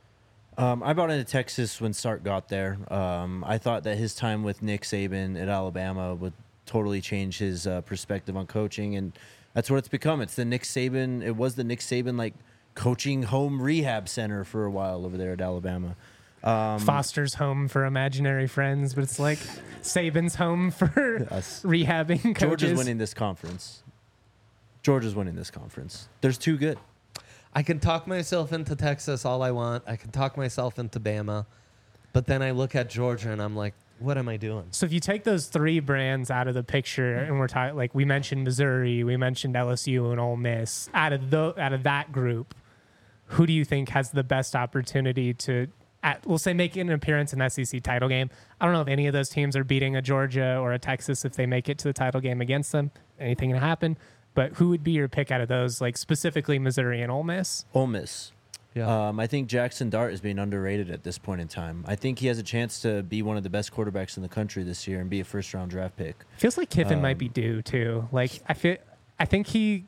Um, I bought into Texas when Sark got there. Um, I thought that his time with Nick Saban at Alabama would totally change his uh, perspective on coaching, and that's what it's become. It's the Nick Saban. It was the Nick Saban like coaching home rehab center for a while over there at Alabama. Um, Foster's home for imaginary friends, but it's like Saban's home for Us. rehabbing coaches. Georgia's winning this conference. Georgia's winning this conference. There's two good. I can talk myself into Texas all I want. I can talk myself into Bama. But then I look at Georgia and I'm like, what am I doing? So if you take those three brands out of the picture, and we're talking like we mentioned Missouri, we mentioned L S U and Ole Miss, out of the out of that group, who do you think has the best opportunity to, at, we'll say, make an appearance in the S E C title game? I don't know if any of those teams are beating a Georgia or a Texas if they make it to the title game against them. Anything can happen. But who would be your pick out of those, like specifically Missouri and Ole Miss? Ole Miss. Yeah. Um, I think Jackson Dart is being underrated at this point in time. I think he has a chance to be one of the best quarterbacks in the country this year and be a first round draft pick. Feels like Kiffin Um, might be due too. Like I feel, I think he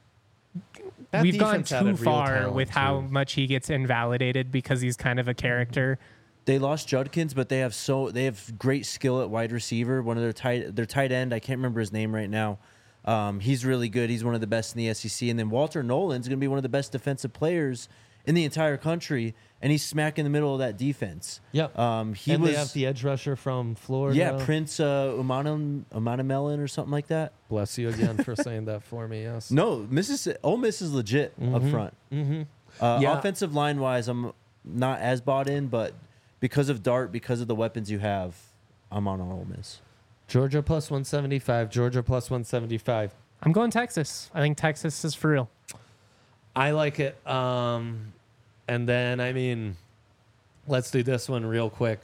That we've gone defense had a too real far talent, with how too. much he gets invalidated because he's kind of a character. They lost Judkins, but they have so they have great skill at wide receiver. One of their tight their tight end, I can't remember his name right now. Um, he's really good. He's one of the best in the S E C. And then Walter Nolan's going to be one of the best defensive players in the entire country, and he's smack in the middle of that defense. Yep. Um, he and was they have the edge rusher from Florida. yeah Prince uh, Umanam Umanamelon or something like that. Bless you again for saying that for me. Yes. No, Mississippi Ole Miss is legit up front. Mm-hmm. Uh, Yeah. Offensive line wise, I'm not as bought in, but because of Dart, because of the weapons you have, I'm on Ole Miss. Georgia plus one seventy-five. Georgia plus one seventy-five. I'm going Texas. I think Texas is for real. I like it. Um, and then, I mean, let's do this one real quick.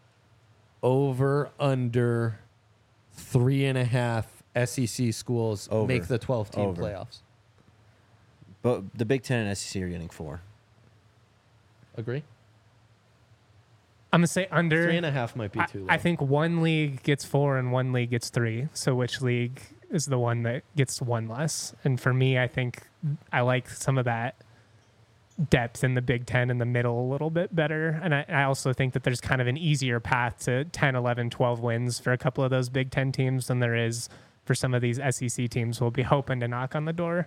Over, under, three and a half S E C schools Over. make the twelve-team Over. playoffs. But the Big Ten and S E C are getting four. Agree? I'm gonna say under. Three and a half might be I, too low. I think one league gets four and one league gets three. So which league is the one that gets one less? And for me, I think I like some of that depth in the Big Ten in the middle a little bit better. And I, I also think that there's kind of an easier path to ten, eleven, twelve wins for a couple of those Big Ten teams than there is for some of these S E C teams who will be hoping to knock on the door.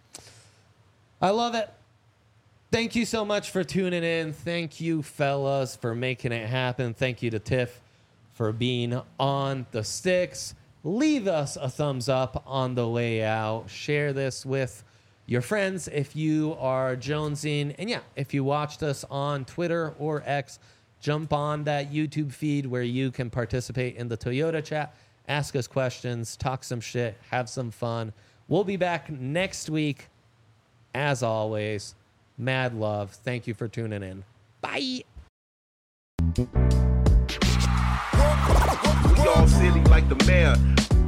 I love it. Thank you so much for tuning in. Thank you, fellas, for making it happen. Thank you to Tiff for being on the sticks. Leave us a thumbs up on the way out. Share this with your friends if you are jonesing. And yeah, if you watched us on Twitter or X, jump on that YouTube feed where you can participate in the Toyota chat, ask us questions, talk some shit, have some fun. We'll be back next week. As always, mad love. Thank you for tuning in. Bye. We all silly like the mayor.